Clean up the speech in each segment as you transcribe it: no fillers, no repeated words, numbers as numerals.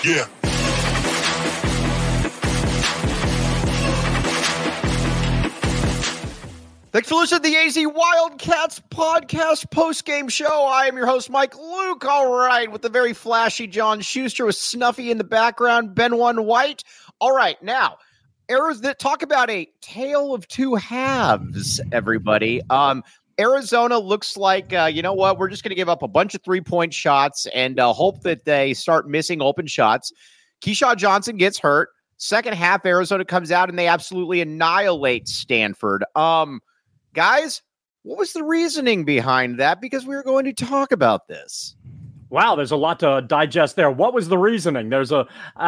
Yeah. Thanks for listening to the AZ Wildcats podcast post-game show. I am your host, Mike Luke. All right, with the very flashy John Schuster with Snuffy in the background, Ben One White. All right, now, talk about a tale of two halves, everybody. Arizona looks like, you know what, we're just going to give up a bunch of three-point shots and hope that they start missing open shots. Keyshawn Johnson gets hurt. Second half, Arizona comes out and they absolutely annihilate Stanford. Guys, what was the reasoning behind that? Because we were going to talk about this. Wow, there's a lot to digest there. What was the reasoning? There's to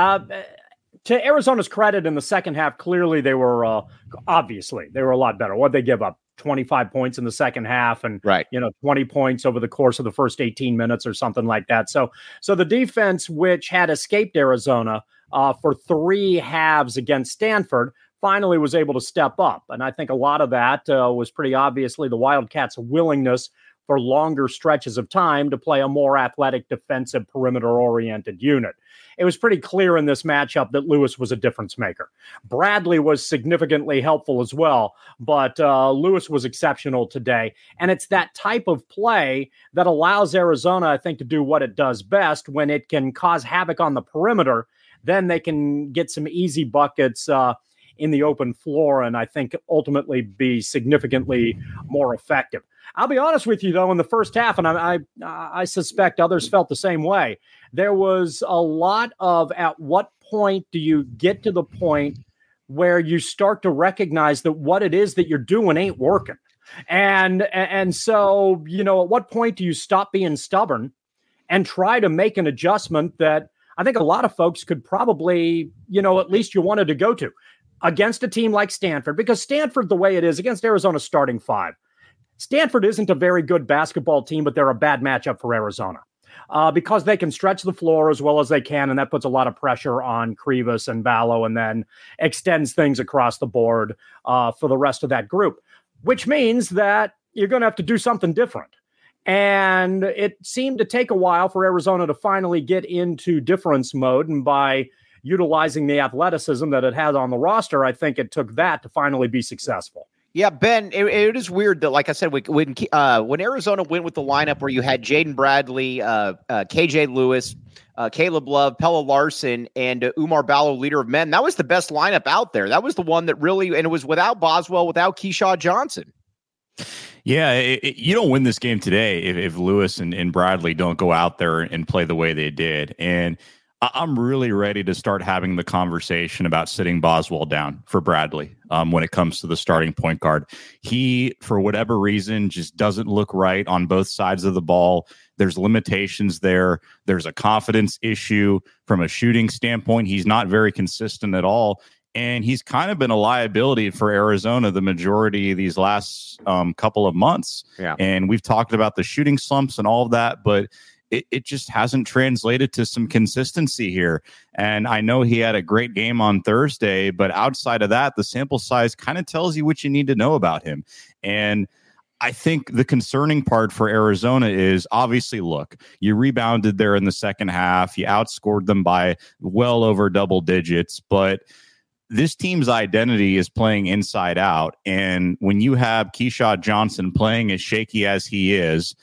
Arizona's credit in the second half, clearly they were, obviously, they were a lot better. What'd they give up? 25 points in the second half and, 20 points over the course of the first 18 minutes or something like that. So the defense, which had escaped Arizona for three halves against Stanford, finally was able to step up. And I think a lot of that was pretty obviously the Wildcats' willingness for longer stretches of time to play a more athletic, defensive, perimeter-oriented unit. It was pretty clear in this matchup that Lewis was a difference maker. Bradley was significantly helpful as well, but Lewis was exceptional today. And it's that type of play that allows Arizona, I think, to do what it does best when it can cause havoc on the perimeter. Then they can get some easy buckets in the open floor, and I think ultimately be significantly more effective. I'll be honest with you, though, in the first half, and I suspect others felt the same way, there was a lot of at what point do you get to the point where you start to recognize that what it is that you're doing ain't working. And so, at what point do you stop being stubborn and try to make an adjustment that I think a lot of folks could probably, at least you wanted to go to against a team like Stanford, because Stanford, the way it is against Arizona's starting five, Stanford isn't a very good basketball team, but they're a bad matchup for Arizona because they can stretch the floor as well as they can, and that puts a lot of pressure on Krivas and Ballo and then extends things across the board for the rest of that group, which means that you're going to have to do something different. And it seemed to take a while for Arizona to finally get into difference mode, and by utilizing the athleticism that it had on the roster, I think it took that to finally be successful. Yeah, Ben, it is weird that, like I said, when Arizona went with the lineup where you had Jaden Bradley, KJ Lewis, Caleb Love, Pella Larson, and Umar Ballo, leader of men, that was the best lineup out there. That was the one that really, and it was without Boswell, without Keyshawn Johnson. Yeah, you don't win this game today if Lewis and Bradley don't go out there and play the way they did. And I'm really ready to start having the conversation about sitting Boswell down for Bradley when it comes to the starting point guard. He, for whatever reason, just doesn't look right on both sides of the ball. There's limitations there. There's a confidence issue from a shooting standpoint. He's not very consistent at all. And he's kind of been a liability for Arizona the majority of these last couple of months. Yeah. And we've talked about the shooting slumps and all of that, but it just hasn't translated to some consistency here. And I know he had a great game on Thursday, but outside of that, the sample size kind of tells you what you need to know about him. And I think the concerning part for Arizona is obviously, look, you rebounded there in the second half. You outscored them by well over double digits, but this team's identity is playing inside out. And when you have Keyshawn Johnson playing as shaky as he is,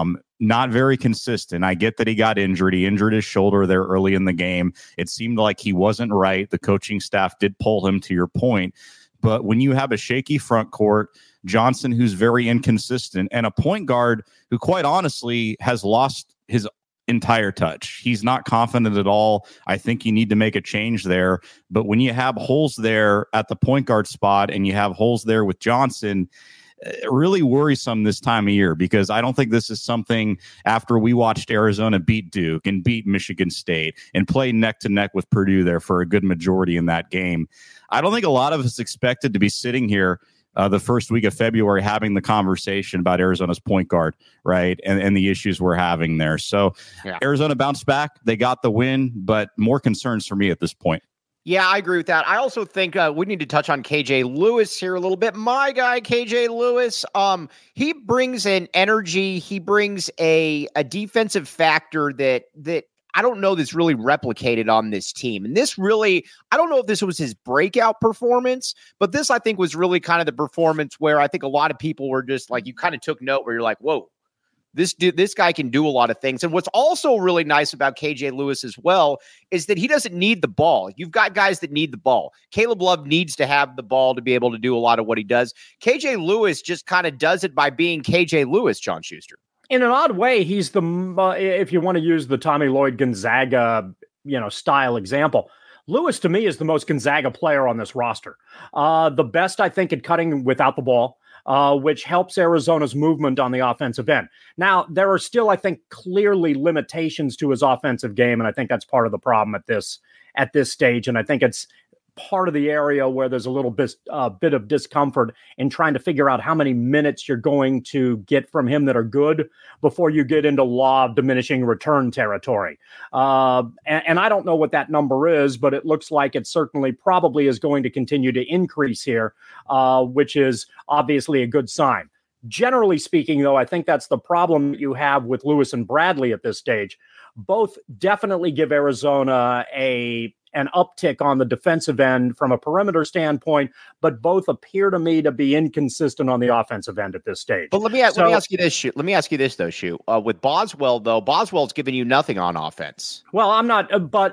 not very consistent. I get that he got injured. He injured his shoulder there early in the game. It seemed like he wasn't right. The coaching staff did pull him, to your point. But when you have a shaky front court, Johnson, who's very inconsistent, and a point guard who, quite honestly, has lost his entire touch. He's not confident at all. I think you need to make a change there. But when you have holes there at the point guard spot and you have holes there with Johnson, really worrisome this time of year, because I don't think this is something after we watched Arizona beat Duke and beat Michigan State and play neck to neck with Purdue there for a good majority in that game. I don't think a lot of us expected to be sitting here the first week of February having the conversation about Arizona's point guard, right? And the issues we're having there. So Arizona bounced back. They got the win, but more concerns for me at this point. Yeah, I agree with that. I also think we need to touch on KJ Lewis here a little bit. My guy, KJ Lewis, he brings an energy. He brings a defensive factor that I don't know that's really replicated on this team. And this really, I don't know if this was his breakout performance, but this I think was really kind of the performance where I think a lot of people were just like, you kind of took note where you're like, whoa, this guy can do a lot of things. And what's also really nice about KJ Lewis as well is that he doesn't need the ball. You've got guys that need the ball. Caleb Love needs to have the ball to be able to do a lot of what he does. KJ Lewis just kind of does it by being KJ Lewis, John Schuster. In an odd way, he's the, if you want to use the Tommy Lloyd Gonzaga, style example, Lewis to me is the most Gonzaga player on this roster. The best, I think, at cutting without the ball. Which helps Arizona's movement on the offensive end. Now, there are still, I think, clearly limitations to his offensive game, and I think that's part of the problem at this stage. And I think it's part of the area where there's a little bit of discomfort in trying to figure out how many minutes you're going to get from him that are good before you get into law of diminishing return territory. And I don't know what that number is, but it looks like it certainly probably is going to continue to increase here, which is obviously a good sign. Generally speaking, though, I think that's the problem you have with Lewis and Bradley at this stage. Both definitely give Arizona an uptick on the defensive end from a perimeter standpoint, but both appear to me to be inconsistent on the offensive end at this stage. But let me ask you this, Shu. Let me ask you this, though, Shu. With Boswell, though, Boswell's giving you nothing on offense. Well, I'm not, but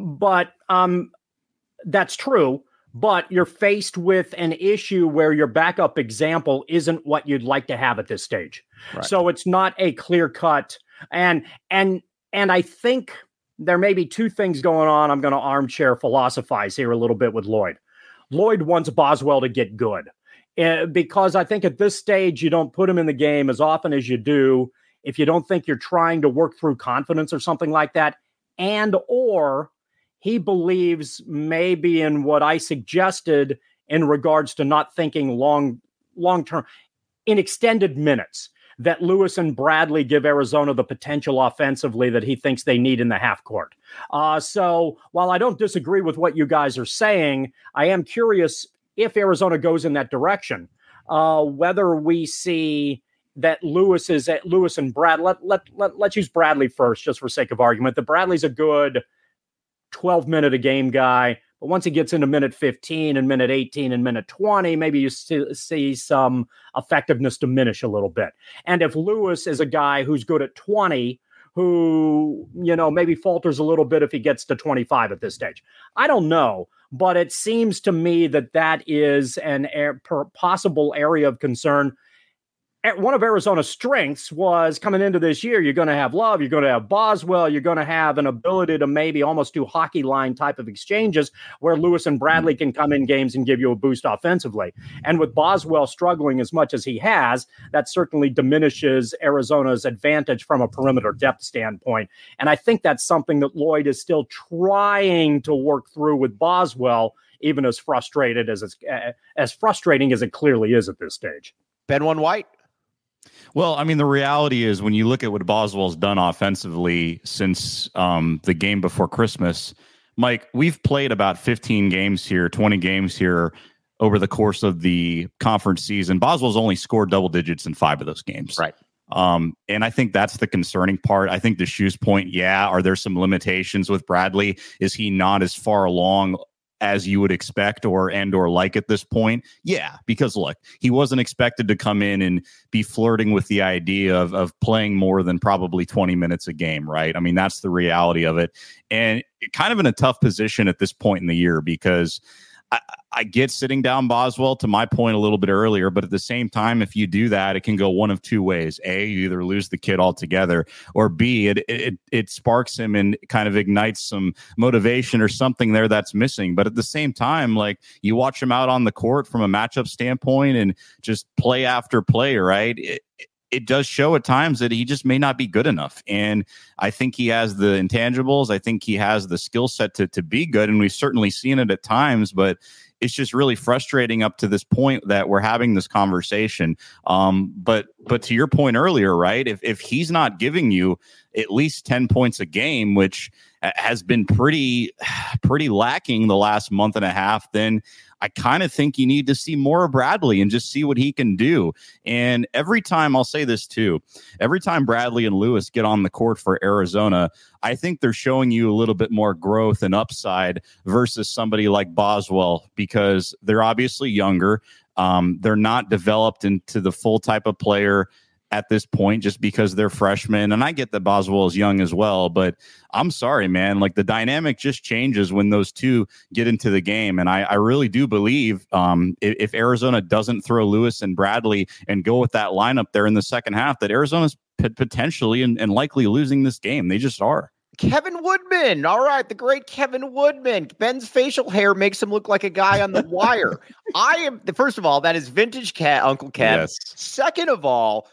that's true. But you're faced with an issue where your backup example isn't what you'd like to have at this stage. Right. So it's not a clear cut. And I think there may be two things going on. I'm going to armchair philosophize here a little bit with Lloyd. Lloyd wants Boswell to get good because I think at this stage, you don't put him in the game as often as you do if you don't think you're trying to work through confidence or something like that. And or he believes maybe in what I suggested in regards to not thinking long-term in extended minutes, that Lewis and Bradley give Arizona the potential offensively that he thinks they need in the half court. So while I don't disagree with what you guys are saying, I am curious if Arizona goes in that direction, whether we see that Lewis and Brad. Let's use Bradley first, just for sake of argument. That Bradley's a good 12-minute a game guy. But once he gets into minute 15 and minute 18 and minute 20, maybe you see some effectiveness diminish a little bit. And if Lewis is a guy who's good at 20, who, maybe falters a little bit if he gets to 25 at this stage. I don't know, but it seems to me that is an possible area of concern. One of Arizona's strengths was coming into this year, you're going to have Love, you're going to have Boswell, you're going to have an ability to maybe almost do hockey line type of exchanges where Lewis and Bradley can come in games and give you a boost offensively. And with Boswell struggling as much as he has, that certainly diminishes Arizona's advantage from a perimeter depth standpoint. And I think that's something that Lloyd is still trying to work through with Boswell, even as frustrating as it clearly is at this stage. Ben White. Well, I mean, the reality is when you look at what Boswell's done offensively since the game before Christmas, Mike, we've played about 15 games here, 20 games here over the course of the conference season. Boswell's only scored double digits in 5 of those games. Right. And I think that's the concerning part. I think the Shu's point, are there some limitations with Bradley? Is he not as far along as you would expect or like at this point? Yeah, because look, he wasn't expected to come in and be flirting with the idea of playing more than probably 20 minutes a game, right? I mean, that's the reality of it. And kind of in a tough position at this point in the year because I get sitting down Boswell, to my point a little bit earlier, but at the same time, if you do that, it can go one of two ways. A, you either lose the kid altogether, or B, it sparks him and kind of ignites some motivation or something there that's missing. But at the same time, like you watch him out on the court from a matchup standpoint and just play after play, right? It does show at times that he just may not be good enough. And I think he has the intangibles. I think he has the skill set to be good. And we've certainly seen it at times, but it's just really frustrating up to this point that we're having this conversation. But to your point earlier, right? If he's not giving you at least 10 points a game, which has been pretty lacking the last month and a half, then I kind of think you need to see more of Bradley and just see what he can do. And every time, I'll say this too, every time Bradley and Lewis get on the court for Arizona, I think they're showing you a little bit more growth and upside versus somebody like Boswell, because they're obviously younger. They're not developed into the full type of player at this point just because they're freshmen. And I get that Boswell is young as well, but I'm sorry, man. Like, the dynamic just changes when those two get into the game. And I really do believe if Arizona doesn't throw Lewis and Bradley and go with that lineup there in the second half, that Arizona's potentially and likely losing this game. They just are. Kevin Woodman. All right. The great Kevin Woodman. Ben's facial hair makes him look like a guy on The Wire. First of all, that is vintage Uncle Kev. Yes. Second of all,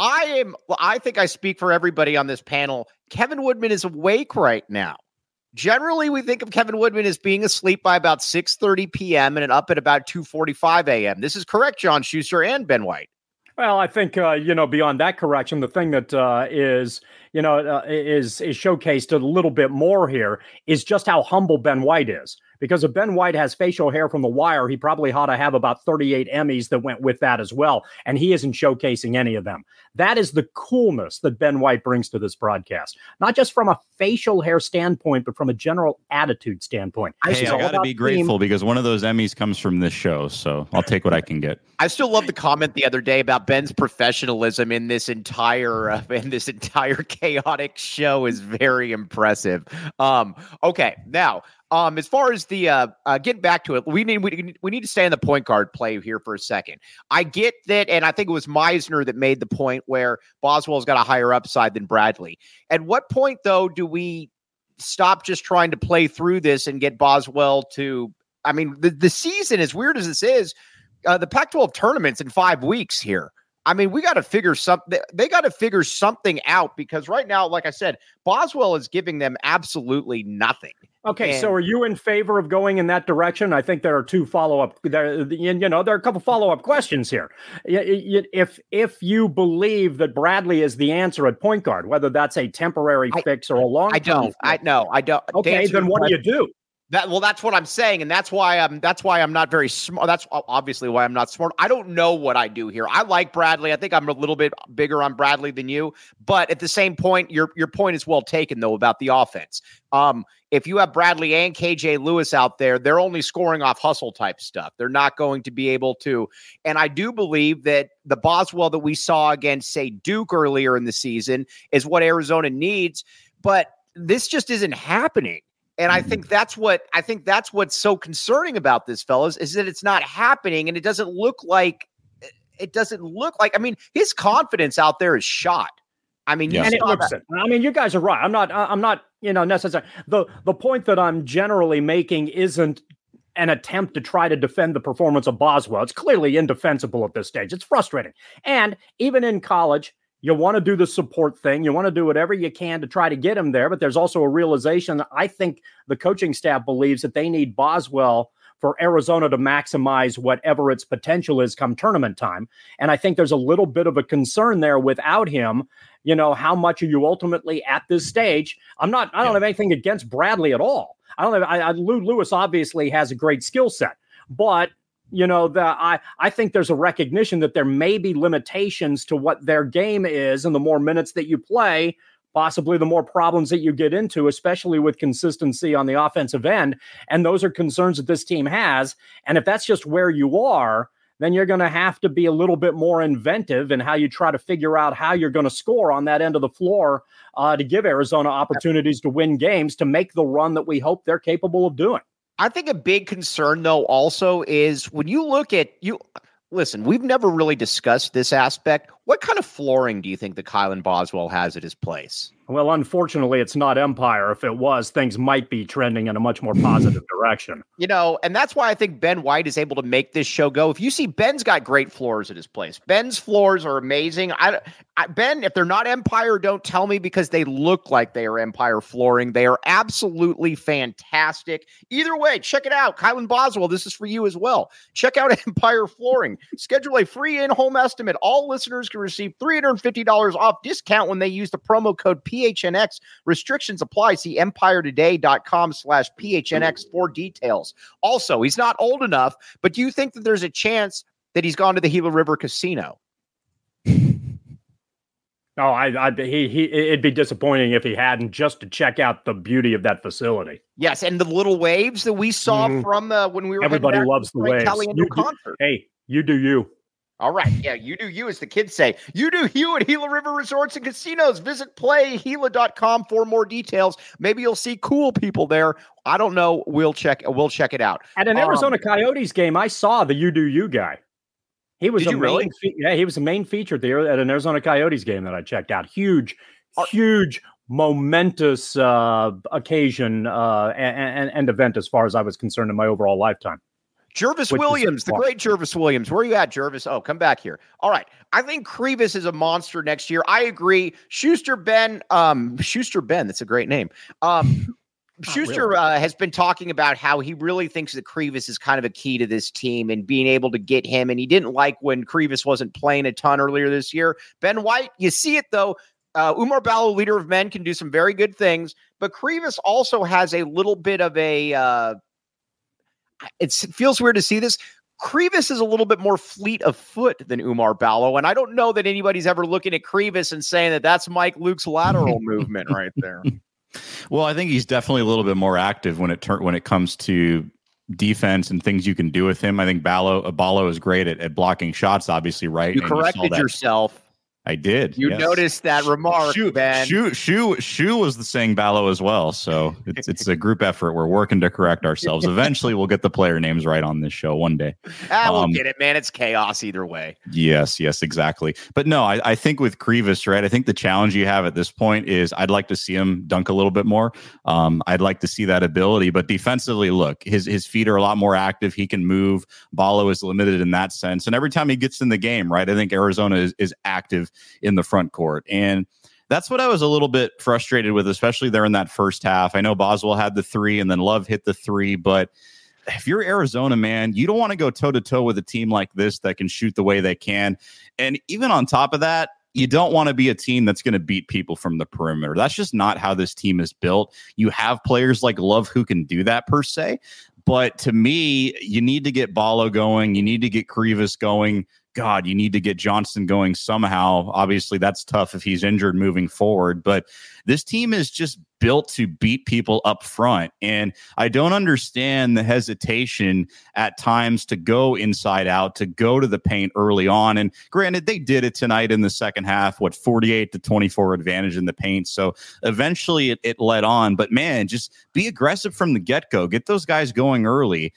I think I speak for everybody on this panel. Kevin Woodman is awake right now. Generally, we think of Kevin Woodman as being asleep by about 6:30 p.m. and up at about 2:45 a.m. This is correct, John Schuster and Ben White. Well, I think, beyond that correction, the thing that is showcased a little bit more here is just how humble Ben White is. Because if Ben White has facial hair from The Wire, he probably ought to have about 38 Emmys that went with that as well. And he isn't showcasing any of them. That is the coolness that Ben White brings to this broadcast. Not just from a facial hair standpoint, but from a general attitude standpoint. I got to be grateful because one of those Emmys comes from this show. So I'll take what I can get. I still love the comment the other day about Ben's professionalism in this entire chaotic show is very impressive. Okay, now, as far as the getting back to it, we need to stay on the point guard play here for a second. I get that, and I think it was Meisner that made the point where Boswell's got a higher upside than Bradley. At what point, though, do we stop just trying to play through this and get Boswell to? I mean, the season, as weird as this is, the Pac-12 tournament's in 5 weeks here. I mean, we got to figure something. They got to figure something out because right now, like I said, Boswell is giving them absolutely nothing. Okay, so are you in favor of going in that direction? I think there are two follow-up. There are a couple follow-up questions here. If you believe that Bradley is the answer at point guard, whether that's a temporary fix or a long, I don't. Okay, then what do you do? That's what I'm saying, and that's why I'm not very smart. That's obviously why I'm not smart. I don't know what I do here. I like Bradley. I think I'm a little bit bigger on Bradley than you, but at the same point, your point is well taken though about the offense. If you have Bradley and KJ Lewis out there, they're only scoring off hustle type stuff. They're not going to be able to. And I do believe that the Boswell that we saw against, say, Duke earlier in the season is what Arizona needs, but this just isn't happening. And I think that's what's so concerning about this, fellas, is that it's not happening, and it doesn't look like. I mean, his confidence out there is shot. I mean, and it looks it. I mean, you guys are right. I'm not necessarily the point that I'm generally making isn't an attempt to try to defend the performance of Boswell. It's clearly indefensible at this stage. It's frustrating, and even in college. You want to do the support thing. You want to do whatever you can to try to get him there. But there's also a realization that I think the coaching staff believes that they need Boswell for Arizona to maximize whatever its potential is come tournament time. And I think there's a little bit of a concern there without him. How much are you ultimately at this stage? I don't have anything against Bradley at all. Lou Lewis obviously has a great skill set, but I think there's a recognition that there may be limitations to what their game is, and the more minutes that you play, possibly the more problems that you get into, especially with consistency on the offensive end. And those are concerns that this team has. And if that's just where you are, then you're going to have to be a little bit more inventive in how you try to figure out how you're going to score on that end of the floor to give Arizona opportunities to win games, to make the run that we hope they're capable of doing. I think a big concern, though, also is when you look at listen, we've never really discussed this aspect. What kind of flooring do you think that Kylan Boswell has at his place? Well, unfortunately, it's not Empire. If it was, things might be trending in a much more positive direction. And that's why I think Ben White is able to make this show go. If you see, Ben's got great floors at his place. Ben's floors are amazing. Ben, if they're not Empire, don't tell me, because they look like they are Empire flooring. They are absolutely fantastic. Either way, check it out. Kylan Boswell, this is for you as well. Check out Empire Flooring. Schedule a free in-home estimate. All listeners can receive $350 off discount when they use the promo code PHNX. Restrictions apply. See EmpireToday.com/PHNX for details. Also, he's not old enough, but do you think that there's a chance that he's gone to the Gila River Casino? No, it'd be disappointing if he hadn't, just to check out the beauty of that facility. Yes, and the little waves that we saw from when we were. Everybody loves the waves. Hey, you do you. All right, yeah, you do you, as the kids say. You do you at Gila River Resorts and Casinos. Visit playGila.com for more details. Maybe you'll see cool people there. I don't know. We'll check it out. At an Arizona Coyotes game, I saw the you do you guy. He was he was a main feature there at an Arizona Coyotes game that I checked out. Huge, momentous occasion and event as far as I was concerned in my overall lifetime. Jervis Williams, the great Jervis Williams. Where are you at, Jervis? Oh, come back here. All right. I think Krivas is a monster next year. I agree. Schuster Ben, that's a great name. Schuster has been talking about how he really thinks that Krivas is kind of a key to this team and being able to get him. And he didn't like when Krivas wasn't playing a ton earlier this year. Ben White, you see it though. Umar Ballo, leader of men, can do some very good things, but Krivas also has a little bit of a, it feels weird to see this. Krivas is a little bit more fleet of foot than Umar Ballo. And I don't know that anybody's ever looking at Krivas and saying that that's Mike Luke's lateral movement right there. Well, I think he's definitely a little bit more active when it comes to defense and things you can do with him. I think Ballo is great at blocking shots, obviously, right? You corrected yourself. I did. You noticed that remark, Ben. Shu was the saying Ballo as well. So it's a group effort. We're working to correct ourselves. Eventually, we'll get the player names right on this show one day. We'll get it, man. It's chaos either way. Yes, exactly. But no, I think with Krivas, right, I think the challenge you have at this point is I'd like to see him dunk a little bit more. I'd like to see that ability. But defensively, look, his feet are a lot more active. He can move. Ballo is limited in that sense. And every time he gets in the game, right, I think Arizona is active in the front court. And that's what I was a little bit frustrated with, especially there in that first half. I know Boswell had the three and then Love hit the three, but if you're Arizona, man, you don't want to go toe-to-toe with a team like this that can shoot the way they can. And even on top of that, you don't want to be a team that's going to beat people from the perimeter. That's just not how this team is built. You have players like Love who can do that per se. But to me, you need to get Ballo going. You need to get Krivas going. God, you need to get Johnson going somehow. Obviously, that's tough if he's injured moving forward. But this team is just built to beat people up front. And I don't understand the hesitation at times to go inside out, to go to the paint early on. And granted, they did it tonight in the second half, 48-24 advantage in the paint. So eventually it led on. But man, just be aggressive from the get-go. Get those guys going early.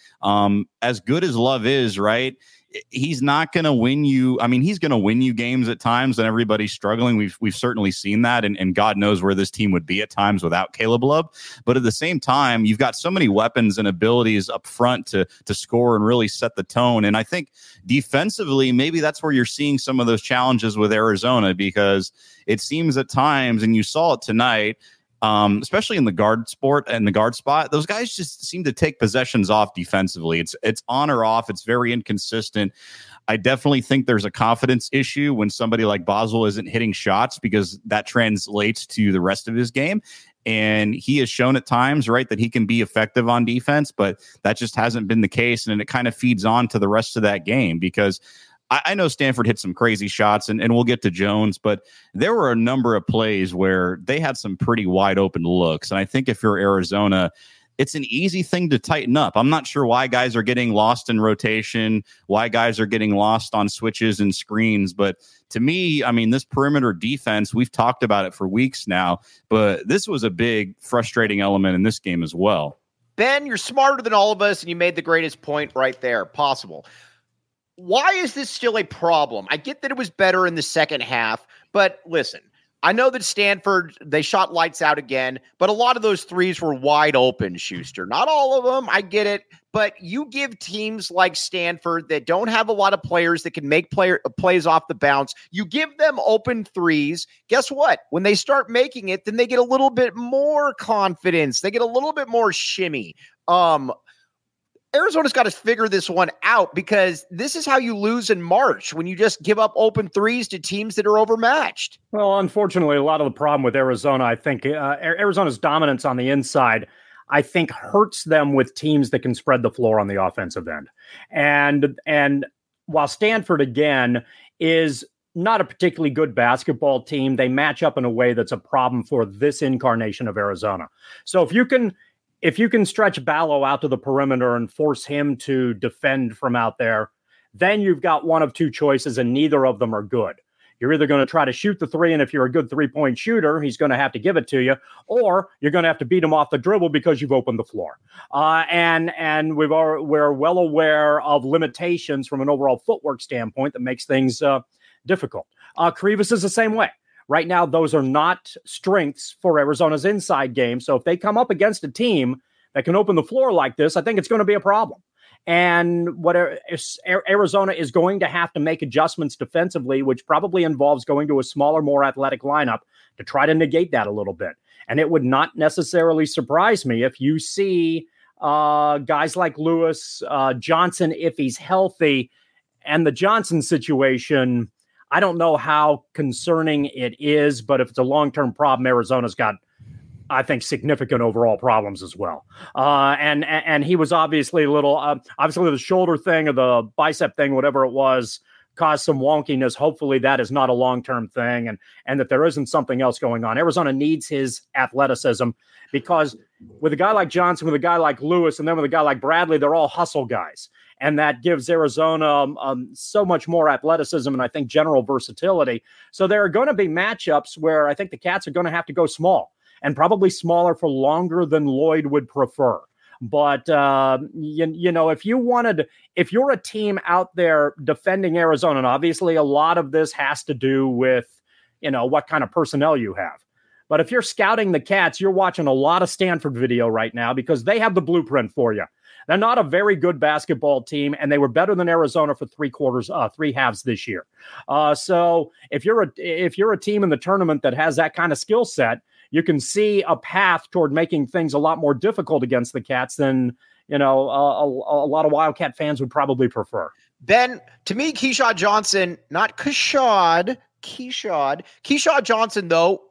As good as Love is, right? He's not going to win you. I mean, he's going to win you games at times and everybody's struggling. We've certainly seen that. And God knows where this team would be at times without Caleb Love. But at the same time, you've got so many weapons and abilities up front to score and really set the tone. And I think defensively, maybe that's where you're seeing some of those challenges with Arizona, because it seems at times, and you saw it tonight, especially in the guard spot, those guys just seem to take possessions off defensively. It's on or off. It's very inconsistent. I definitely think there's a confidence issue when somebody like Boswell isn't hitting shots, because that translates to the rest of his game. And he has shown at times, right, that he can be effective on defense, but that just hasn't been the case. And it kind of feeds on to the rest of that game, because I know Stanford hit some crazy shots, and we'll get to Jones, but there were a number of plays where they had some pretty wide open looks. And I think if you're Arizona, it's an easy thing to tighten up. I'm not sure why guys are getting lost in rotation, why guys are getting lost on switches and screens. But to me, I mean, this perimeter defense, we've talked about it for weeks now, but this was a big frustrating element in this game as well. Ben, you're smarter than all of us, and you made the greatest point right there possible. Why is this still a problem? I get that it was better in the second half, but listen, I know that Stanford, they shot lights out again, but a lot of those threes were wide open, Schuster. Not all of them, I get it, but you give teams like Stanford that don't have a lot of players that can make plays off the bounce, you give them open threes. Guess what? When they start making it, then they get a little bit more confidence. They get a little bit more shimmy. Arizona's got to figure this one out, because this is how you lose in March, when you just give up open threes to teams that are overmatched. Well, unfortunately, a lot of the problem with Arizona, I think Arizona's dominance on the inside, I think, hurts them with teams that can spread the floor on the offensive end. And while Stanford, again, is not a particularly good basketball team, they match up in a way that's a problem for this incarnation of Arizona. So if you can stretch Ballo out to the perimeter and force him to defend from out there, then you've got one of two choices, and neither of them are good. You're either going to try to shoot the three, and if you're a good three-point shooter, he's going to have to give it to you, or you're going to have to beat him off the dribble because you've opened the floor. And we're well aware of limitations from an overall footwork standpoint that makes things difficult. Krivas is the same way. Right now, those are not strengths for Arizona's inside game. So if they come up against a team that can open the floor like this, I think it's going to be a problem. And what Arizona is going to have to make adjustments defensively, which probably involves going to a smaller, more athletic lineup to try to negate that a little bit. And it would not necessarily surprise me if you see guys like Lewis, Johnson, if he's healthy. And the Johnson situation, I don't know how concerning it is, but if it's a long-term problem, Arizona's got, I think, significant overall problems as well. And he was obviously a little, obviously the shoulder thing or the bicep thing, whatever it was, caused some wonkiness. Hopefully that is not a long-term thing, and that there isn't something else going on. Arizona needs his athleticism, because with a guy like Johnson, with a guy like Lewis, and then with a guy like Bradley, they're all hustle guys. And that gives Arizona so much more athleticism and I think general versatility. So there are going to be matchups where I think the Cats are going to have to go small, and probably smaller for longer than Lloyd would prefer. But, you know, if you're a team out there defending Arizona, and obviously a lot of this has to do with, you know, what kind of personnel you have. But if you're scouting the Cats, you're watching a lot of Stanford video right now, because they have the blueprint for you. They're not a very good basketball team, and they were better than Arizona for three halves this year. So if you're a team in the tournament that has that kind of skill set, you can see a path toward making things a lot more difficult against the Cats than, you know, a lot of Wildcat fans would probably prefer. Ben, to me, Keshad Johnson, not Keshad Johnson, though,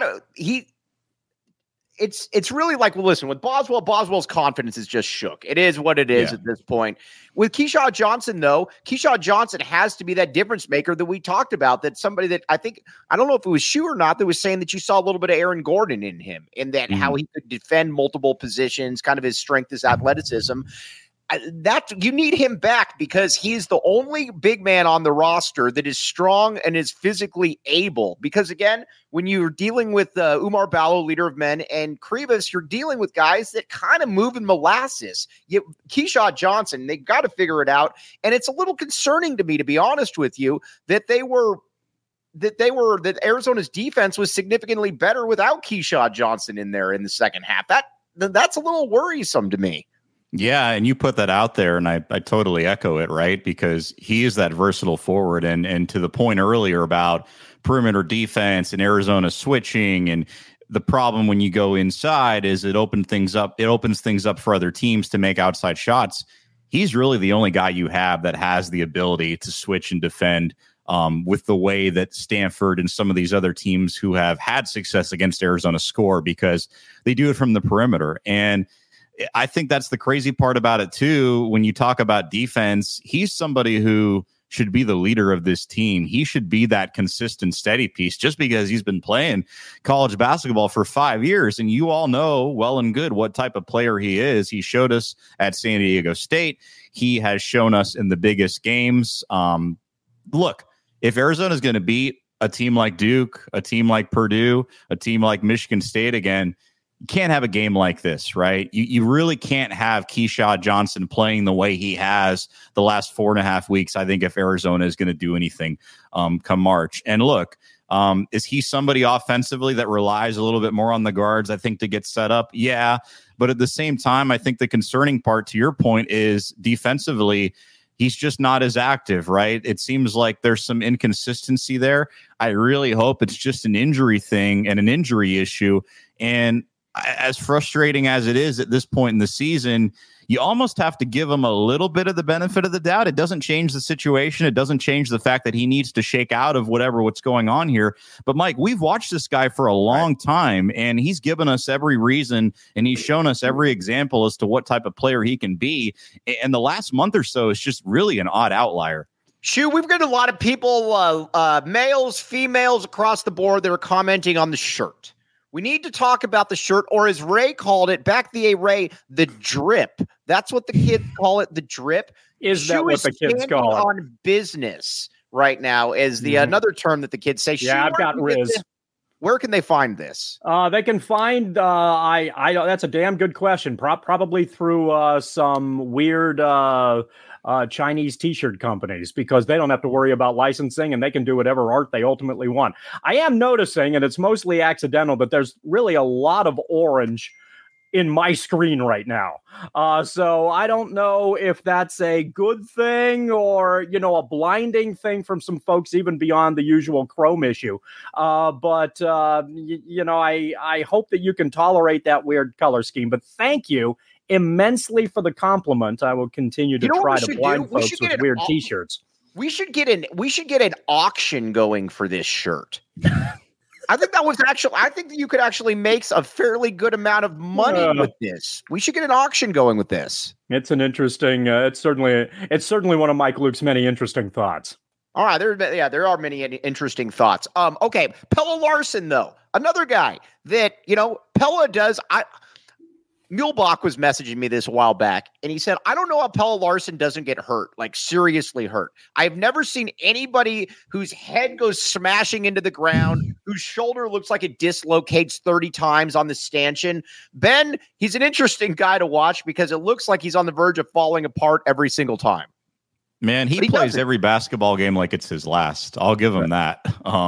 it's really like, well, listen, with Boswell's confidence is just shook. It is what it is at this point. With Keshad Johnson, though, Keshad Johnson has to be that difference maker that we talked about, that somebody that I don't know if it was Shu or not, that was saying that you saw a little bit of Aaron Gordon in him, in that how he could defend multiple positions, kind of his strength is athleticism. That you need him back, because he's the only big man on the roster that is strong and is physically able. Because again, when you're dealing with Umar Ballo, leader of men, and Krivas, you're dealing with guys that kind of move in molasses. Keshad Johnson, they've got to figure it out. And it's a little concerning to me, to be honest with you, that Arizona's defense was significantly better without Keshad Johnson in there in the second half. That's a little worrisome to me. Yeah, and you put that out there, and I totally echo it, right? Because he is that versatile forward, and to the point earlier about perimeter defense and Arizona switching, and the problem when you go inside is it opens things up for other teams to make outside shots. He's really the only guy you have that has the ability to switch and defend, with the way that Stanford and some of these other teams who have had success against Arizona score, because they do it from the perimeter. And I think that's the crazy part about it, too. When you talk about defense, he's somebody who should be the leader of this team. He should be that consistent, steady piece, just because he's been playing college basketball for 5 years. And you all know well and good what type of player he is. He showed us at San Diego State. He has shown us in the biggest games. Look, if Arizona's going to beat a team like Duke, a team like Purdue, a team like Michigan State again, you can't have a game like this, right? You really can't have Keshad Johnson playing the way he has the last 4.5 weeks, I think, if Arizona is going to do anything come March. And look, is he somebody offensively that relies a little bit more on the guards, I think, to get set up? Yeah. But at the same time, I think the concerning part, to your point, is defensively, he's just not as active, right? It seems like there's some inconsistency there. I really hope it's just an injury thing and an injury issue. And as frustrating as it is at this point in the season, you almost have to give him a little bit of the benefit of the doubt. It doesn't change the situation. It doesn't change the fact that he needs to shake out of what's going on here. But Mike, we've watched this guy for a long time, and he's given us every reason, and he's shown us every example as to what type of player he can be. And the last month or so is just really an odd outlier. Shu, we've got a lot of people, males, females across the board that are commenting on the shirt. We need to talk about the shirt, or as Ray called it, back the Ray, the drip. That's what the kids call it, the drip. Is that what the kids call it? On business right now is the another term that the kids say. Yeah, I've got Riz. Where can they find this? They can find, that's a damn good question. Probably through some weird Chinese t-shirt companies, because they don't have to worry about licensing and they can do whatever art they ultimately want. I am noticing, and it's mostly accidental, but there's really a lot of orange in my screen right now. So I don't know if that's a good thing or, a blinding thing from some folks even beyond the usual Chrome issue. But I hope that you can tolerate that weird color scheme. But thank you immensely for the compliment. I will continue to try to blind folks with weird t-shirts. We should get an auction going for this shirt. I think that you could actually make a fairly good amount of money with this. We should get an auction going with this. It's an interesting, it's certainly one of Mike Luke's many interesting thoughts. All right. There are many interesting thoughts. Okay. Pelle Larsson, though, another guy that, Pelle does. Muehlbach was messaging me this a while back, and he said, I don't know how Pelle Larsson doesn't get hurt, like seriously hurt. I've never seen anybody whose head goes smashing into the ground, whose shoulder looks like it dislocates 30 times on the stanchion. Ben, he's an interesting guy to watch because it looks like he's on the verge of falling apart every single time. Man, he plays every basketball game like it's his last. I'll give him that.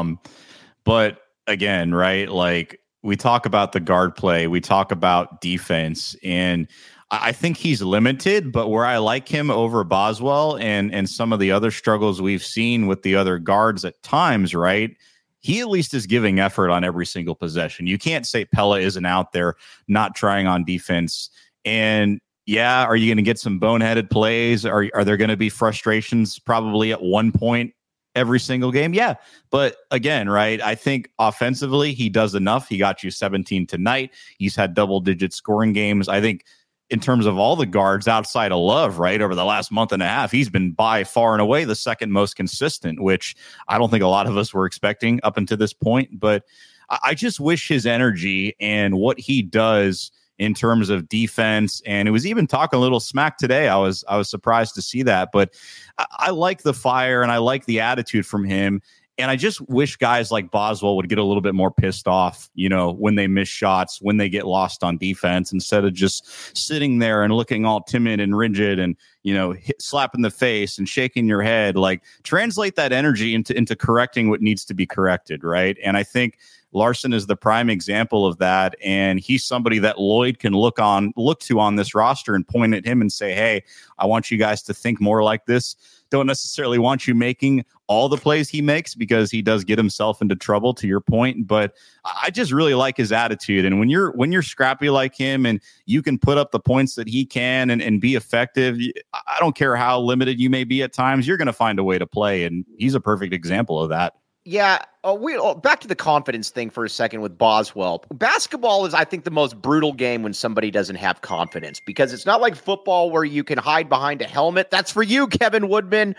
But again, right, like, we talk about the guard play, we talk about defense, and I think he's limited, but where I like him over Boswell and some of the other struggles we've seen with the other guards at times, right? He at least is giving effort on every single possession. You can't say Pelle isn't out there not trying on defense. And yeah, are you going to get some boneheaded plays? Are there going to be frustrations probably at one point every single game? Yeah. But again, right, I think offensively, he does enough. He got you 17 tonight. He's had double-digit scoring games. I think in terms of all the guards outside of Love, right, over the last month and a half, he's been by far and away the second most consistent, which I don't think a lot of us were expecting up until this point. But I just wish his energy and what he does in terms of defense, and it was even talking a little smack today. I was surprised to see that, but I like the fire and I like the attitude from him. And I just wish guys like Boswell would get a little bit more pissed off, when they miss shots, when they get lost on defense, instead of just sitting there and looking all timid and rigid and, slapping the face and shaking your head. Like, translate that energy into correcting what needs to be corrected, right? And I think Larsson is the prime example of that, and he's somebody that Lloyd can look to on this roster and point at him and say, hey, I want you guys to think more like this. Don't necessarily want you making all the plays he makes, because he does get himself into trouble, to your point. But I just really like his attitude. And when you're scrappy like him and you can put up the points that he can and be effective, I don't care how limited you may be at times, you're going to find a way to play. And he's a perfect example of that. Yeah, back to the confidence thing for a second with Boswell. Basketball is, I think, the most brutal game when somebody doesn't have confidence, because it's not like football where you can hide behind a helmet. That's for you, Kevin Woodman.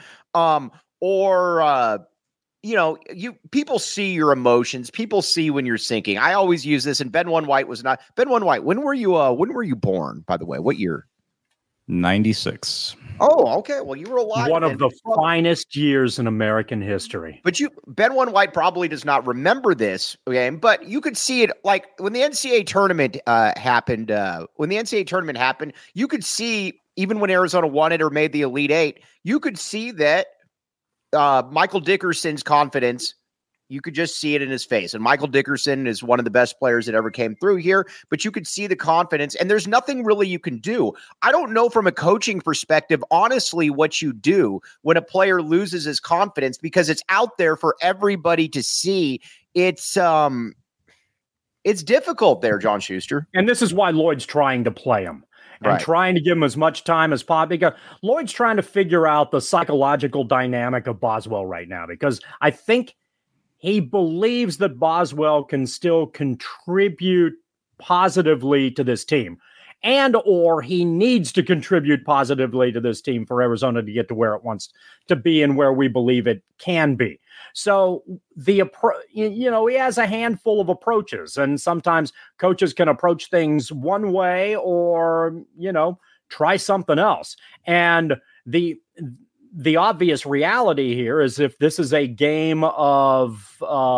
People see your emotions. People see when you're sinking. I always use this, and Ben One White was not. Ben One White, when were you born, by the way? What year? 96. Oh, okay. Well, you were alive. One of the finest years in American history. But Ben One White probably does not remember this game, but you could see it like when the NCAA tournament happened. When the NCAA tournament happened, you could see, even when Arizona won it or made the Elite Eight, you could see that Michael Dickerson's confidence. You could just see it in his face. And Michael Dickerson is one of the best players that ever came through here, but you could see the confidence, and there's nothing really you can do. I don't know from a coaching perspective, honestly, what you do when a player loses his confidence, because it's out there for everybody to see. It's It's difficult there, John Schuster. And this is why Lloyd's trying to play him and trying to give him as much time as possible, because Lloyd's trying to figure out the psychological dynamic of Boswell right now, because I think he believes that Boswell can still contribute positively to this team, and or he needs to contribute positively to this team for Arizona to get to where it wants to be and where we believe it can be. So he has a handful of approaches, and sometimes coaches can approach things one way or, try something else. And the obvious reality here is if this is a game of,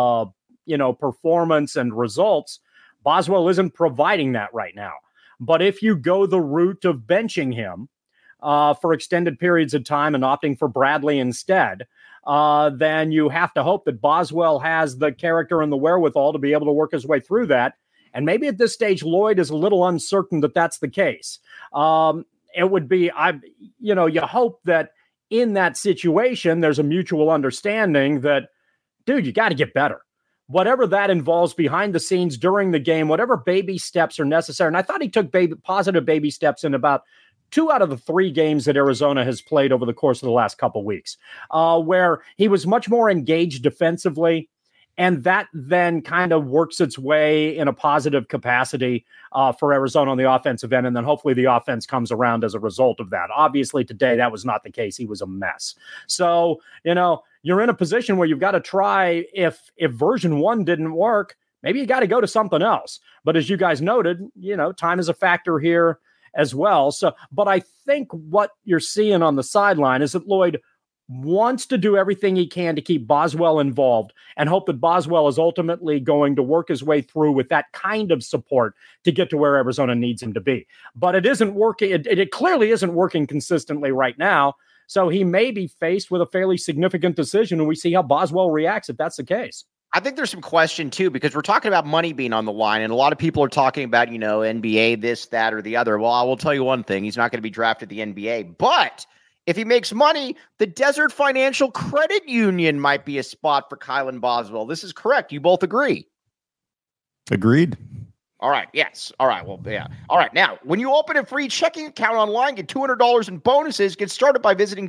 performance and results, Boswell isn't providing that right now. But if you go the route of benching him for extended periods of time and opting for Bradley instead, then you have to hope that Boswell has the character and the wherewithal to be able to work his way through that. And maybe at this stage, Lloyd is a little uncertain that that's the case. It would be, you hope that in that situation, there's a mutual understanding that, dude, you got to get better. Whatever that involves behind the scenes during the game, whatever baby steps are necessary. And I thought he took positive baby steps in about 2 out of the 3 games that Arizona has played over the course of the last couple weeks, where he was much more engaged defensively. And that then kind of works its way in a positive capacity for Arizona on the offensive end. And then hopefully the offense comes around as a result of that. Obviously today, that was not the case. He was a mess. So, you're in a position where you've got to try, if version 1 didn't work, maybe you got to go to something else. But as you guys noted, time is a factor here as well. So, but I think what you're seeing on the sideline is that Lloyd wants to do everything he can to keep Boswell involved and hope that Boswell is ultimately going to work his way through with that kind of support to get to where Arizona needs him to be. But it isn't working. It clearly isn't working consistently right now. So he may be faced with a fairly significant decision, and we see how Boswell reacts if that's the case. I think there's some question, too, because we're talking about money being on the line, and a lot of people are talking about, NBA, this, that, or the other. Well, I will tell you one thing. He's not going to be drafted the NBA. But if he makes money, the Desert Financial Credit Union might be a spot for Kylan Boswell. This is correct. You both agree? Agreed. All right. Yes. All right. Well, yeah. All right. Now, when you open a free checking account online, get $200 in bonuses. Get started by visiting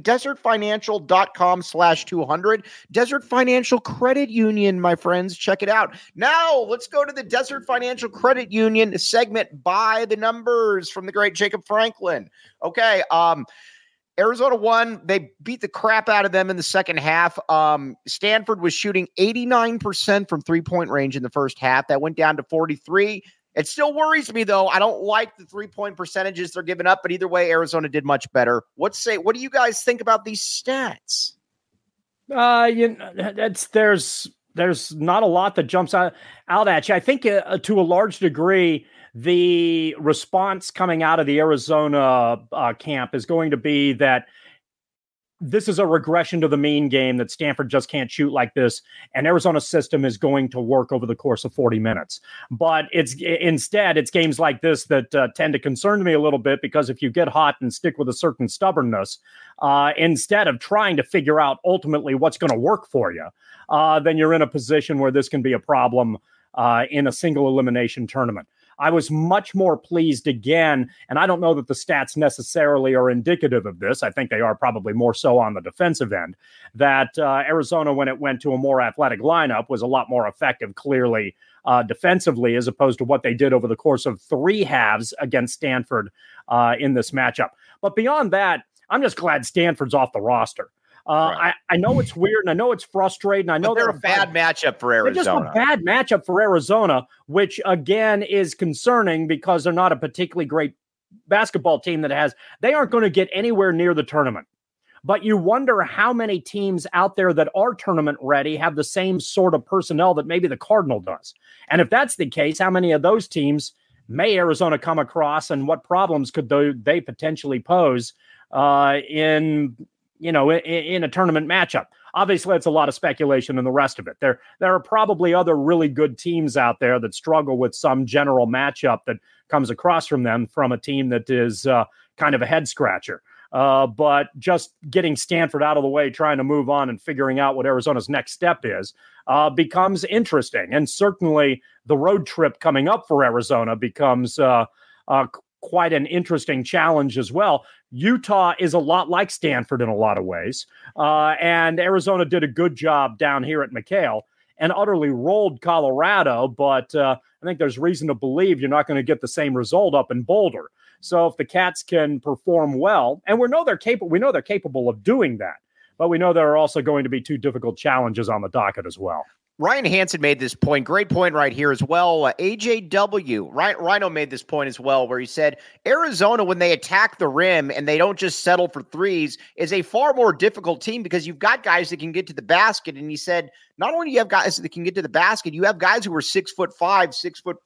desertfinancial.com/200. Desert Financial Credit Union, my friends. Check it out. Now, let's go to the Desert Financial Credit Union segment by the numbers from the great Jacob Franklin. Okay. Arizona won. They beat the crap out of them in the second half. Stanford was shooting 89% from three-point range in the first half. That went down to 43%. It still worries me, though. I don't like the three-point percentages they're giving up, but either way, Arizona did much better. What do you guys think about these stats? There's not a lot that jumps out at you. I think to a large degree, the response coming out of the Arizona camp is going to be that this is a regression to the mean game, that Stanford just can't shoot like this, and Arizona's system is going to work over the course of 40 minutes. But it's games like this that tend to concern me a little bit, because if you get hot and stick with a certain stubbornness, instead of trying to figure out ultimately what's going to work for you, then you're in a position where this can be a problem in a single elimination tournament. I was much more pleased again, and I don't know that the stats necessarily are indicative of this. I think they are probably more so on the defensive end, that Arizona, when it went to a more athletic lineup, was a lot more effective, clearly, defensively, as opposed to what they did over the course of 3 halves against Stanford in this matchup. But beyond that, I'm just glad Stanford's off the roster. Right. I know it's weird, and I know it's frustrating. I know they're a bad matchup for Arizona. They're just a bad matchup for Arizona, which again is concerning because they're not a particularly great basketball team they aren't going to get anywhere near the tournament. But you wonder how many teams out there that are tournament ready have the same sort of personnel that maybe the Cardinal does. And if that's the case, how many of those teams may Arizona come across, and what problems could they potentially pose in a tournament matchup? Obviously, it's a lot of speculation and the rest of it. There are probably other really good teams out there that struggle with some general matchup that comes across from them from a team that is kind of a head scratcher. But just getting Stanford out of the way, trying to move on and figuring out what Arizona's next step is, becomes interesting. And certainly the road trip coming up for Arizona becomes quite an interesting challenge as well. Utah is a lot like Stanford in a lot of ways. And Arizona did a good job down here at McHale and utterly rolled Colorado. But I think there's reason to believe you're not going to get the same result up in Boulder. So if the Cats can perform well, and we know they're capable of doing that, but we know there are also going to be 2 difficult challenges on the docket as well. Ryan Hansen made this point. Great point right here as well. AJW, Rhino made this point as well, where he said Arizona, when they attack the rim and they don't just settle for threes, is a far more difficult team because you've got guys that can get to the basket. And he said, not only do you have guys that can get to the basket, you have guys who are 6'5", 6'4",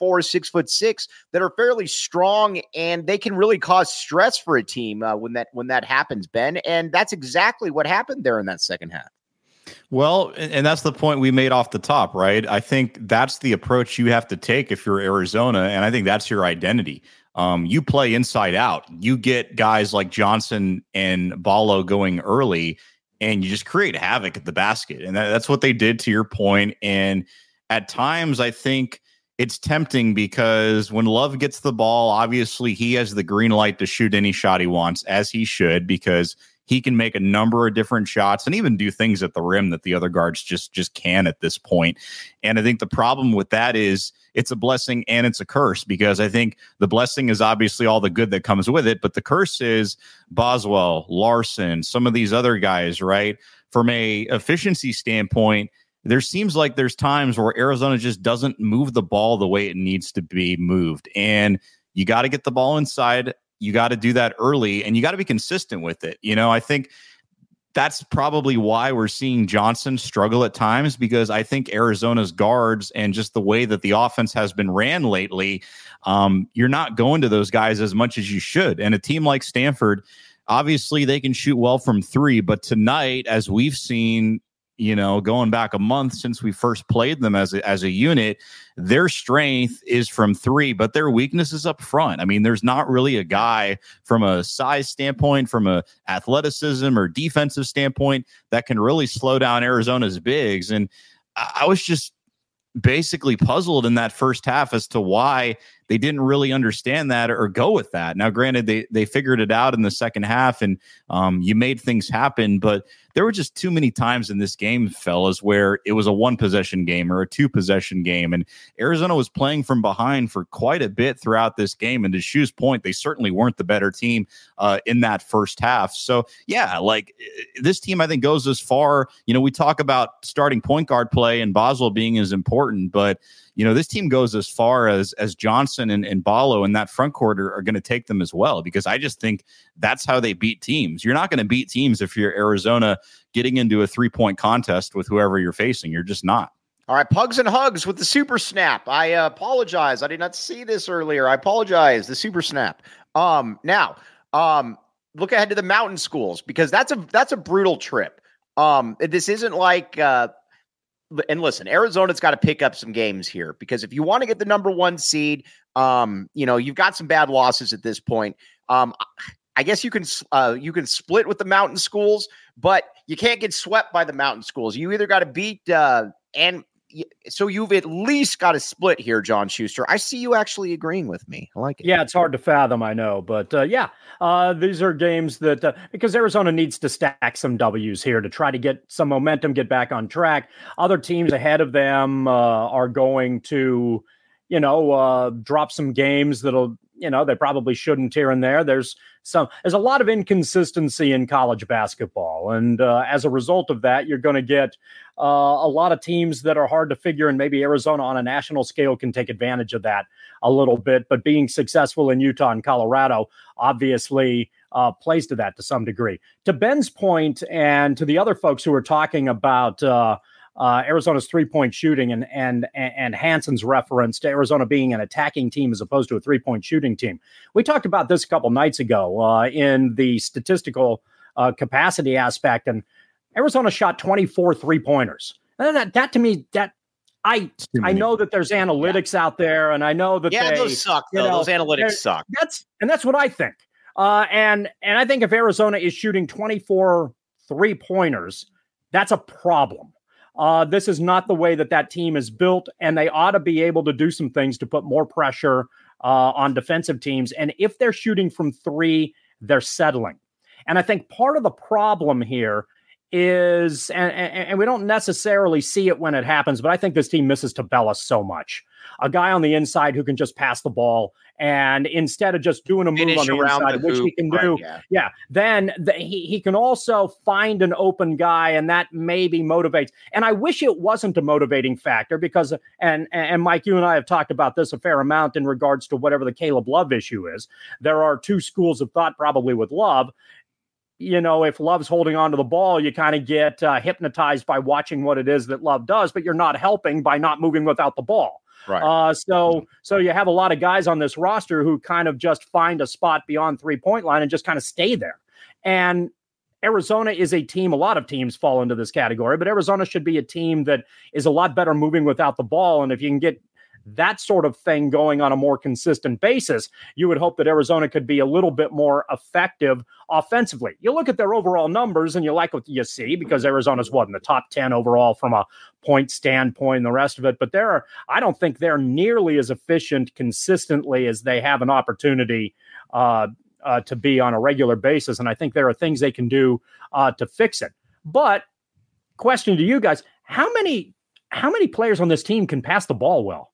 6'6" that are fairly strong, and they can really cause stress for a team when that happens, Ben. And that's exactly what happened there in that second half. Well, and that's the point we made off the top, right? I think that's the approach you have to take if you're Arizona, and I think that's your identity. You play inside out. You get guys like Johnson and Ballo going early, and you just create havoc at the basket. And that's what they did, to your point. And at times, I think it's tempting because when Love gets the ball, obviously he has the green light to shoot any shot he wants, as he should, because he can make a number of different shots and even do things at the rim that the other guards just can at this point. And I think the problem with that is it's a blessing and it's a curse, because I think the blessing is obviously all the good that comes with it, but the curse is Boswell, Larson, some of these other guys, right? From a efficiency standpoint, there seems like there's times where Arizona just doesn't move the ball the way it needs to be moved. And you got to get the ball inside. You got to do that early, and you got to be consistent with it. You know, I think that's probably why we're seeing Johnson struggle at times, because I think Arizona's guards and just the way that the offense has been ran lately, you're not going to those guys as much as you should. And a team like Stanford, obviously they can shoot well from 3, but tonight, as we've seen, you know, going back a month since we first played them as a unit, their strength is from 3, but their weakness is up front. I mean, there's not really a guy from a size standpoint, from a athleticism or defensive standpoint that can really slow down Arizona's bigs. And I was just basically puzzled in that first half as to why they didn't really understand that or go with that. Now, granted, they figured it out in the second half, and you made things happen, but there were just too many times in this game, fellas, where it was a 1-possession game or a 2-possession game, and Arizona was playing from behind for quite a bit throughout this game. And to Shu's point, they certainly weren't the better team in that first half. So, yeah, like this team, I think, goes as far. You know, we talk about starting point guard play and Boswell being as important, but you know, this team goes as far as Johnson and Ballo in that front court are going to take them as well, because I just think that's how they beat teams. You're not going to beat teams if you're Arizona getting into a 3-point contest with whoever you're facing. You're just not. All right, Pugs and Hugs with the super snap. I apologize. I did not see this earlier. I apologize. The super snap. Now, look ahead to the mountain schools, because that's a brutal trip. This isn't like and listen, Arizona's got to pick up some games here, because if you want to get the number 1 seed, you know, you've got some bad losses at this point. I guess you can split with the mountain schools, but you can't get swept by the mountain schools. You either got to beat so you've at least got to split here, John Schuster. I see you actually agreeing with me. I like it. Yeah, it's hard to fathom, I know. But these are games that because Arizona needs to stack some W's here to try to get some momentum, get back on track. Other teams ahead of them are going to, drop some games that'll, they probably shouldn't here and there. There's a lot of inconsistency in college basketball. And as a result of that, you're going to get a lot of teams that are hard to figure, and maybe Arizona on a national scale can take advantage of that a little bit. But being successful in Utah and Colorado obviously plays to that to some degree. To Ben's point, and to the other folks who are talking about Arizona's 3-point shooting and Hansen's reference to Arizona being an attacking team as opposed to a 3-point shooting team. We talked about this a couple nights ago in the statistical capacity aspect, and Arizona shot 24 3-pointers. And that to me, I know that there's analytics out there, and I know that those suck. Those analytics suck. That's what I think. And I think if Arizona is shooting 24 3-pointers, that's a problem. This is not the way that team is built, and they ought to be able to do some things to put more pressure on defensive teams. And if they're shooting from 3, they're settling. And I think part of the problem here is, and we don't necessarily see it when it happens, but I think this team misses Tabella so much. A guy on the inside who can just pass the ball, and instead of just doing a move on the inside, which he can do, then he can also find an open guy, and that maybe motivates. And I wish it wasn't a motivating factor because, and Mike, you and I have talked about this a fair amount in regards to whatever the Caleb Love issue is. There are two schools of thought probably with Love. You know, if Love's holding on to the ball, you kind of get hypnotized by watching what it is that Love does, but you're not helping by not moving without the ball. Right. So you have a lot of guys on this roster who kind of just find a spot beyond 3-point line and just kind of stay there. And Arizona is a team, a lot of teams fall into this category, but Arizona should be a team that is a lot better moving without the ball. And if you can get that sort of thing going on a more consistent basis, you would hope that Arizona could be a little bit more effective offensively. You look at their overall numbers and you like what you see because Arizona's in the top 10 overall from a point standpoint and the rest of it. But I don't think they're nearly as efficient consistently as they have an opportunity to be on a regular basis. And I think there are things they can do to fix it. But question to you guys, how many players on this team can pass the ball well?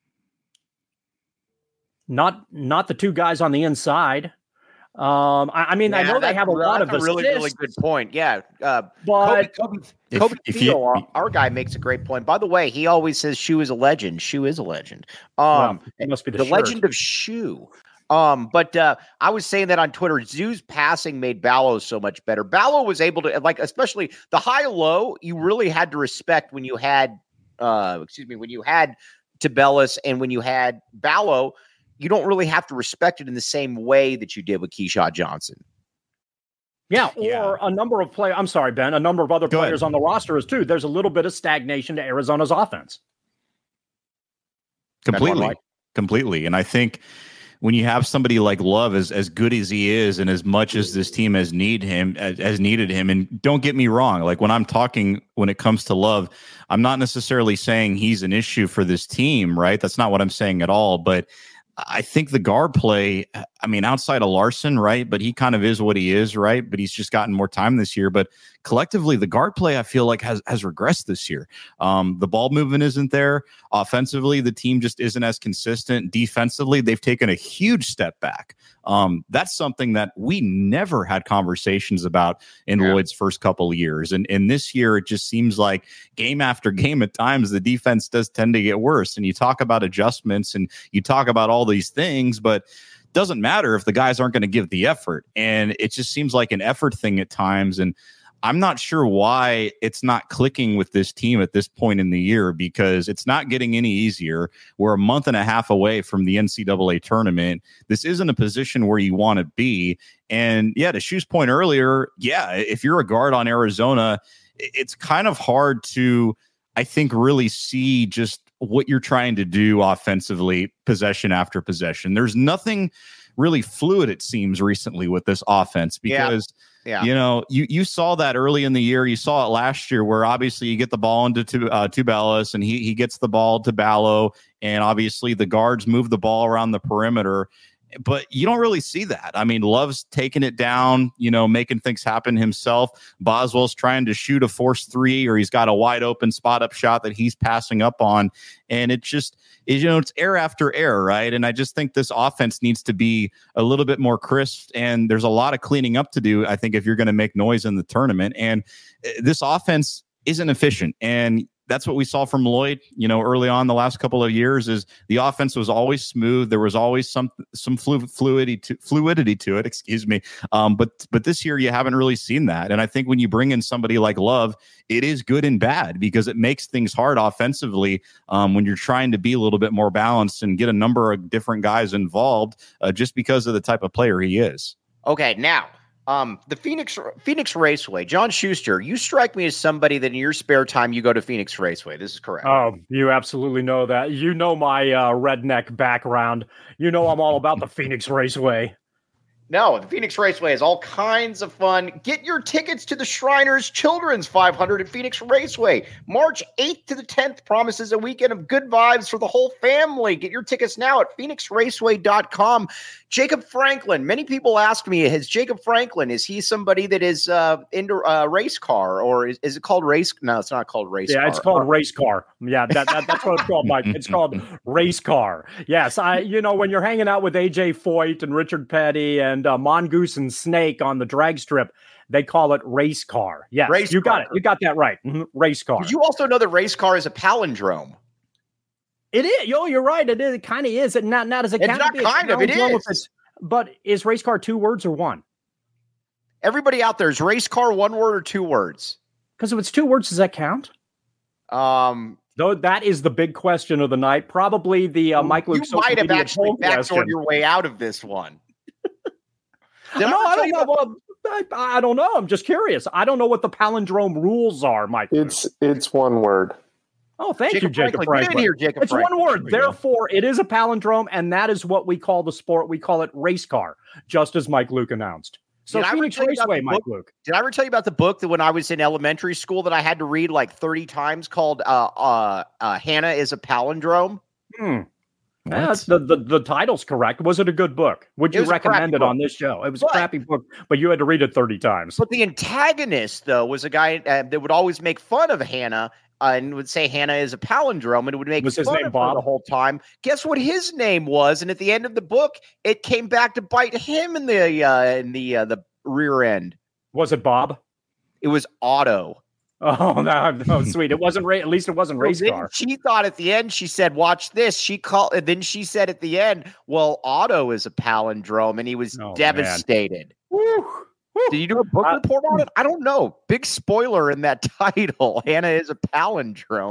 Not the two guys on the inside. I know they have a lot of assists. Really good point. Yeah. But Kobe Theo, our guy, makes a great point. By the way, he always says Shoe is a legend. Shoe is a legend. It must be the legend of Shoe. But I was saying that on Twitter, Zoo's passing made Ballo so much better. Ballo was able to, especially the high-low, you really had to respect when you had, when you had Tabellis and when you had Ballo. You don't really have to respect it in the same way that you did with Keyshawn Johnson. Yeah, or a number of players. I'm sorry, Ben. A number of other players on the roster is too. There's a little bit of stagnation to Arizona's offense. Completely. And I think when you have somebody like Love as good as he is, and as much as this team has needed him, and don't get me wrong, like when it comes to Love, I'm not necessarily saying he's an issue for this team, right? That's not what I'm saying at all. But I think the guard play, outside of Larson, right? But he kind of is what he is, right? But he's just gotten more time this year. But collectively, the guard play, I feel like has regressed this year. The ball movement isn't there. Offensively, the team just isn't as consistent. Defensively, they've taken a huge step back. That's something that we never had conversations about in Lloyd's first couple of years. And this year, it just seems like game after game, at times, the defense does tend to get worse. And you talk about adjustments and you talk about all these things, but it doesn't matter if the guys aren't going to give the effort. And it just seems like an effort thing at times. And I'm not sure why it's not clicking with this team at this point in the year, because it's not getting any easier. We're a month and a half away from the NCAA tournament. This isn't a position where you want to be. And to Shu's point earlier, if you're a guard on Arizona, it's kind of hard to, I think, really see just what you're trying to do offensively, possession after possession. There's nothing really fluid, it seems, recently with this offense, because you saw that early in the year. You saw it last year where obviously you get the ball into Tubelis and he gets the ball to Ballo, and obviously the guards move the ball around the perimeter. But you don't really see that. Love's taking it down, making things happen himself. Boswell's trying to shoot a force 3, or he's got a wide open spot up shot that he's passing up on. And it just is, it's error after error, right? And I just think this offense needs to be a little bit more crisp. And there's a lot of cleaning up to do, I think, if you're going to make noise in the tournament. And this offense isn't efficient. And that's what we saw from Lloyd, early on the last couple of years, is the offense was always smooth. There was always some fluidity to it, excuse me. But this year you haven't really seen that. And I think when you bring in somebody like Love, it is good and bad, because it makes things hard offensively when you're trying to be a little bit more balanced and get a number of different guys involved just because of the type of player he is. Okay, now, the Phoenix Raceway, John Schuster, you strike me as somebody that in your spare time you go to Phoenix Raceway. This is correct. Oh, you absolutely know that. My redneck background. I'm all about the Phoenix Raceway. No, the Phoenix Raceway has all kinds of fun. Get your tickets to the Shriners Children's 500 at Phoenix Raceway. March 8th to the 10th promises a weekend of good vibes for the whole family. Get your tickets now at phoenixraceway.com. Jacob Franklin. Many people ask me, is Jacob Franklin, is he somebody that is into race car, or is it called race? No, it's not called race car. Yeah, it's called race car. Yeah, that's what it's called, Mike. It's called race car. Yes, when you're hanging out with AJ Foyt and Richard Petty and Mongoose and Snake on the drag strip, they call it race car. Yes, you got it. You got that right. Mm-hmm. Race car. Did you also know that race car is a palindrome? It is. You're right. It is. It kind of is. It not as a. It's not kind of. It is. But is race car 2 words or 1? Everybody out there, is race car 1 word or 2 words? Because if it's 2 words, does that count? Though that is the big question of the night. Probably the Mike Luke. You might have actually backdoored your way out of this one. I don't know. Well, I don't know. I'm just curious. I don't know what the palindrome rules are, Mike. It's 1 word. Oh, thank you, Jacob Franklin. Get in here, Jacob it's Franklin. 1 word. Therefore, it is a palindrome, and that is what we call the sport. We call it race car, just as Mike Luke announced. So Phoenix Raceway, Mike Luke. Did I ever tell you about the book that when I was in elementary school that I had to read like 30 times called Hannah is a Palindrome? Yeah, the title's correct. Was it a good book? Would you recommend it on this show? It was a crappy book, but you had to read it 30 times. But the antagonist, though, was a guy that would always make fun of Hannah and would say Hannah is a palindrome, and it would make fun of her the whole time. Guess what his name was? And at the end of the book, it came back to bite him in the rear end. Was it Bob? It was Otto. Oh, no, sweet. It wasn't at least it wasn't race car. She thought at the end, she said, watch this. And then she said at the end, well, Otto is a palindrome, and he was devastated. Did you do a book report on it? I don't know. Big spoiler in that title. Hannah is a palindrome.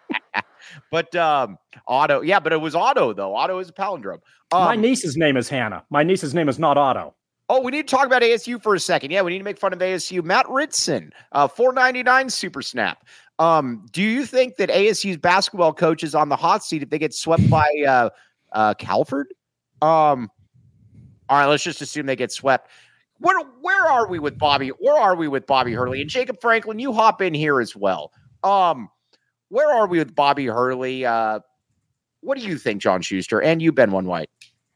But Otto, but it was Otto, though. Otto is a palindrome. My niece's name is Hannah. My niece's name is not Otto. Oh, we need to talk about ASU for a second. Yeah, we need to make fun of ASU. Matt Ritson, $4.99 Super Snap. Do you think that ASU's basketball coach is on the hot seat if they get swept by Calvert? All right, let's just assume they get swept. Where are we with Bobby? Where are we with Bobby Hurley? And Jacob Franklin, you hop in here as well. Where are we with Bobby Hurley? What do you think, John Schuster? And you, Ben One White?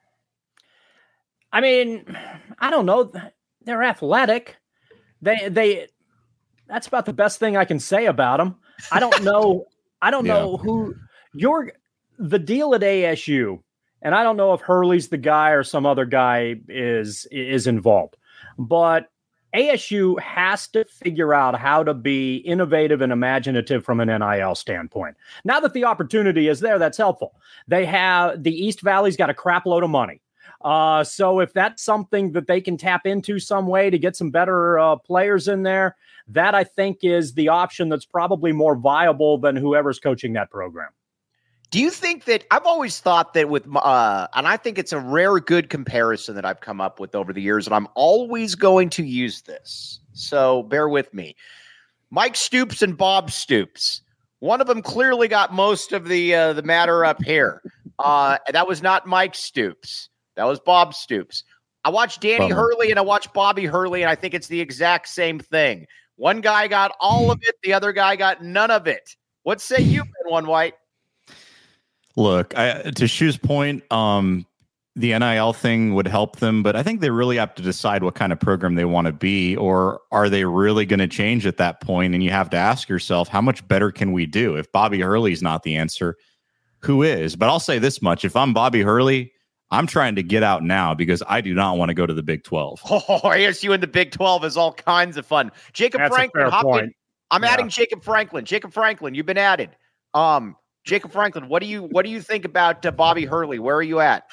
I mean, I don't know. They're athletic. They. That's about the best thing I can say about them. I don't know. I don't know who the deal at ASU, and I don't know if Hurley's the guy or some other guy is involved. But ASU has to figure out how to be innovative and imaginative from an NIL standpoint. Now that the opportunity is there, that's helpful. The East Valley's got a crap load of money. So if that's something that they can tap into some way to get some better players in there, that I think is the option that's probably more viable than whoever's coaching that program. Do you think that I've always thought that with, and I think it's a rare good comparison that I've come up with over the years, and I'm always going to use this. So bear with me. Mike Stoops and Bob Stoops. One of them clearly got most of the matter up here. That was not Mike Stoops. That was Bob Stoops. I watched Danny Hurley and I watched Bobby Hurley, and I think it's the exact same thing. One guy got all of it. The other guy got none of it. What say you, Ben One White? Look, to Shu's point, the NIL thing would help them, but I think they really have to decide what kind of program they want to be, or are they really going to change at that point? And you have to ask yourself, how much better can we do? If Bobby Hurley's not the answer, who is? But I'll say this much. If I'm Bobby Hurley, I'm trying to get out now because I do not want to go to the Big 12. Oh, ASU in the Big 12 is all kinds of fun. Jacob Franklin, hop in. I'm adding Jacob Franklin. Jacob Franklin, you've been added. Jacob Franklin, what do you think about Bobby Hurley? Where are you at?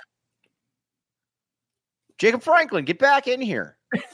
Jacob Franklin, get back in here.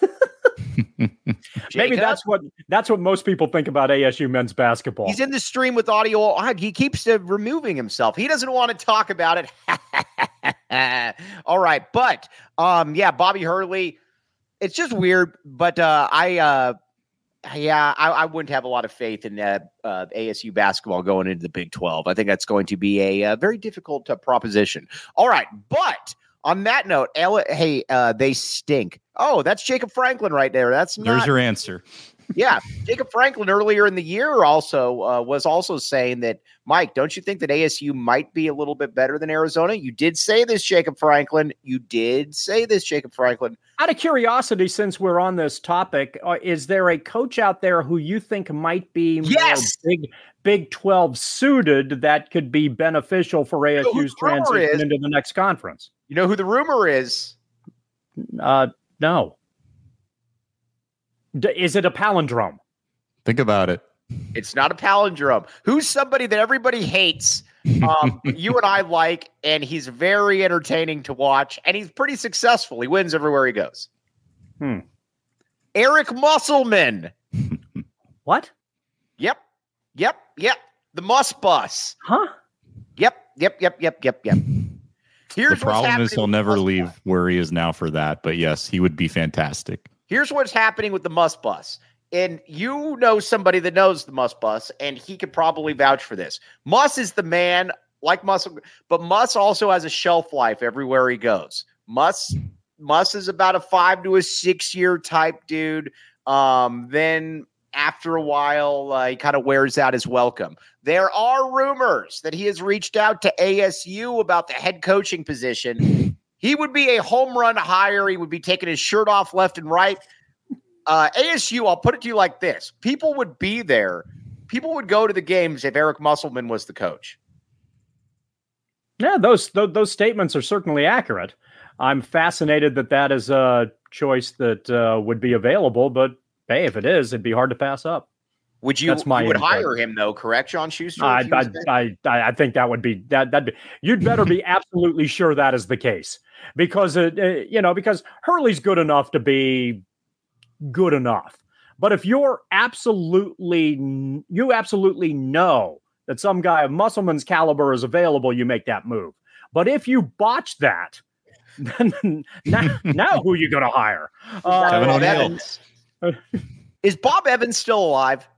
Maybe that's what most people think about ASU men's basketball. He's in the stream with audio. He keeps removing himself. He doesn't want to talk about it. All right, but Bobby Hurley. It's just weird, but I wouldn't have a lot of faith in ASU basketball going into the Big 12. I think that's going to be a very difficult proposition. All right, but On that note, they stink. Oh, that's Jacob Franklin right there. There's your answer. Yeah, Jacob Franklin earlier in the year also was also saying that, Mike, don't you think that ASU might be a little bit better than Arizona? You did say this, Jacob Franklin. Out of curiosity, since we're on this topic, is there a coach out there who you think might be more Big 12 suited that could be beneficial for ASU's transition into the next conference? You know who the rumor is? No. Is it a palindrome? Think about it. It's not a palindrome. Who's somebody that everybody hates, you and I like, and he's very entertaining to watch, and he's pretty successful. He wins everywhere he goes. Eric Musselman. What? Yep. The Muss Bus. Huh? Yep. The problem is he'll never leave where he is now for that. But yes, he would be fantastic. Here's what's happening with the Muss Bus. And you know somebody that knows the Muss Bus, and he could probably vouch for this. Muss is the man, like Muss, but Muss also has a shelf life everywhere he goes. Muss is about a 5 to 6 year type dude. Then after a while, he kind of wears out his welcome. There are rumors that he has reached out to ASU about the head coaching position. He would be a home run hire. He would be taking his shirt off left and right. ASU, I'll put it to you like this. People would be there. People would go to the games if Eric Musselman was the coach. Yeah, those statements are certainly accurate. I'm fascinated that is a choice that would be available, but hey, if it is, it'd be hard to pass up. Would you? You would hire him though, correct, John Schuster? I think that would be that. You'd better be absolutely sure that is the case, because because Hurley's good enough to be good enough. But if you absolutely know that some guy of Musselman's caliber is available, you make that move. But if you botch that, then now who are you going to hire? Kevin O'Neill. Is Bob Evans still alive?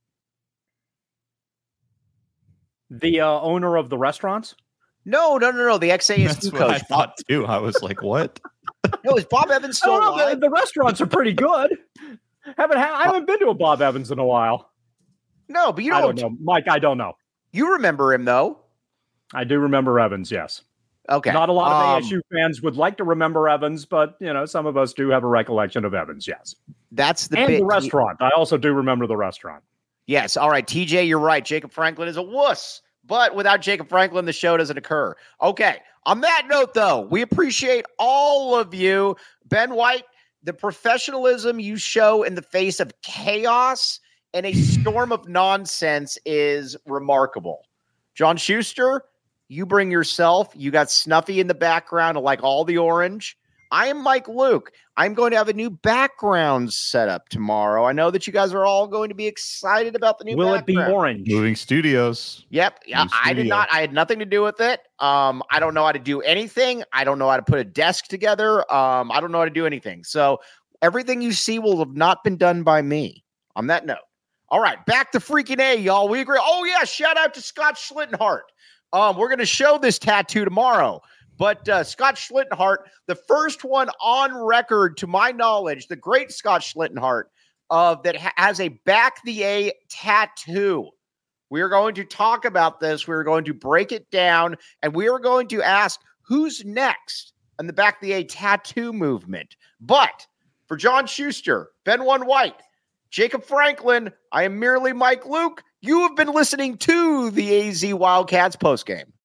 The owner of the restaurants? No. The ex-ASU coach. I thought too. I was like, what? No, is Bob Evans still alive? The restaurants are pretty good. I haven't been to a Bob Evans in a while. No, but I don't know. Mike, I don't know. You remember him, though. I do remember Evans, yes. Okay. Not a lot of ASU fans would like to remember Evans, but some of us do have a recollection of Evans, yes. That's the the restaurant. I also do remember the restaurant. Yes. All right, TJ, you're right. Jacob Franklin is a wuss. But without Jacob Franklin, the show doesn't occur. Okay. On that note, though, we appreciate all of you. Ben White, the professionalism you show in the face of chaos and a storm of nonsense is remarkable. John Schuster, you bring yourself. You got Snuffy in the background, like all the orange. I am Mike Luke. I'm going to have a new background set up tomorrow. I know that you guys are all going to be excited about the new background. Will it be orange? Moving studios. Yep. Yeah, I did not. I had nothing to do with it. I don't know how to do anything. I don't know how to put a desk together. I don't know how to do anything. So everything you see will have not been done by me. On that note. All right. Back to freaking A, y'all. We agree. Oh, yeah. Shout out to Scott Schlittenhart. We're going to show this tattoo tomorrow. But Scott Schlittenhart, the first one on record, to my knowledge, the great Scott Schlittenhart, that has a Back the A tattoo. We are going to talk about this. We're going to break it down, and we are going to ask who's next in the Back the A tattoo movement. But for John Schuster, Ben One White, Jacob Franklin, I am merely Mike Luke. You have been listening to the AZ Wildcats postgame.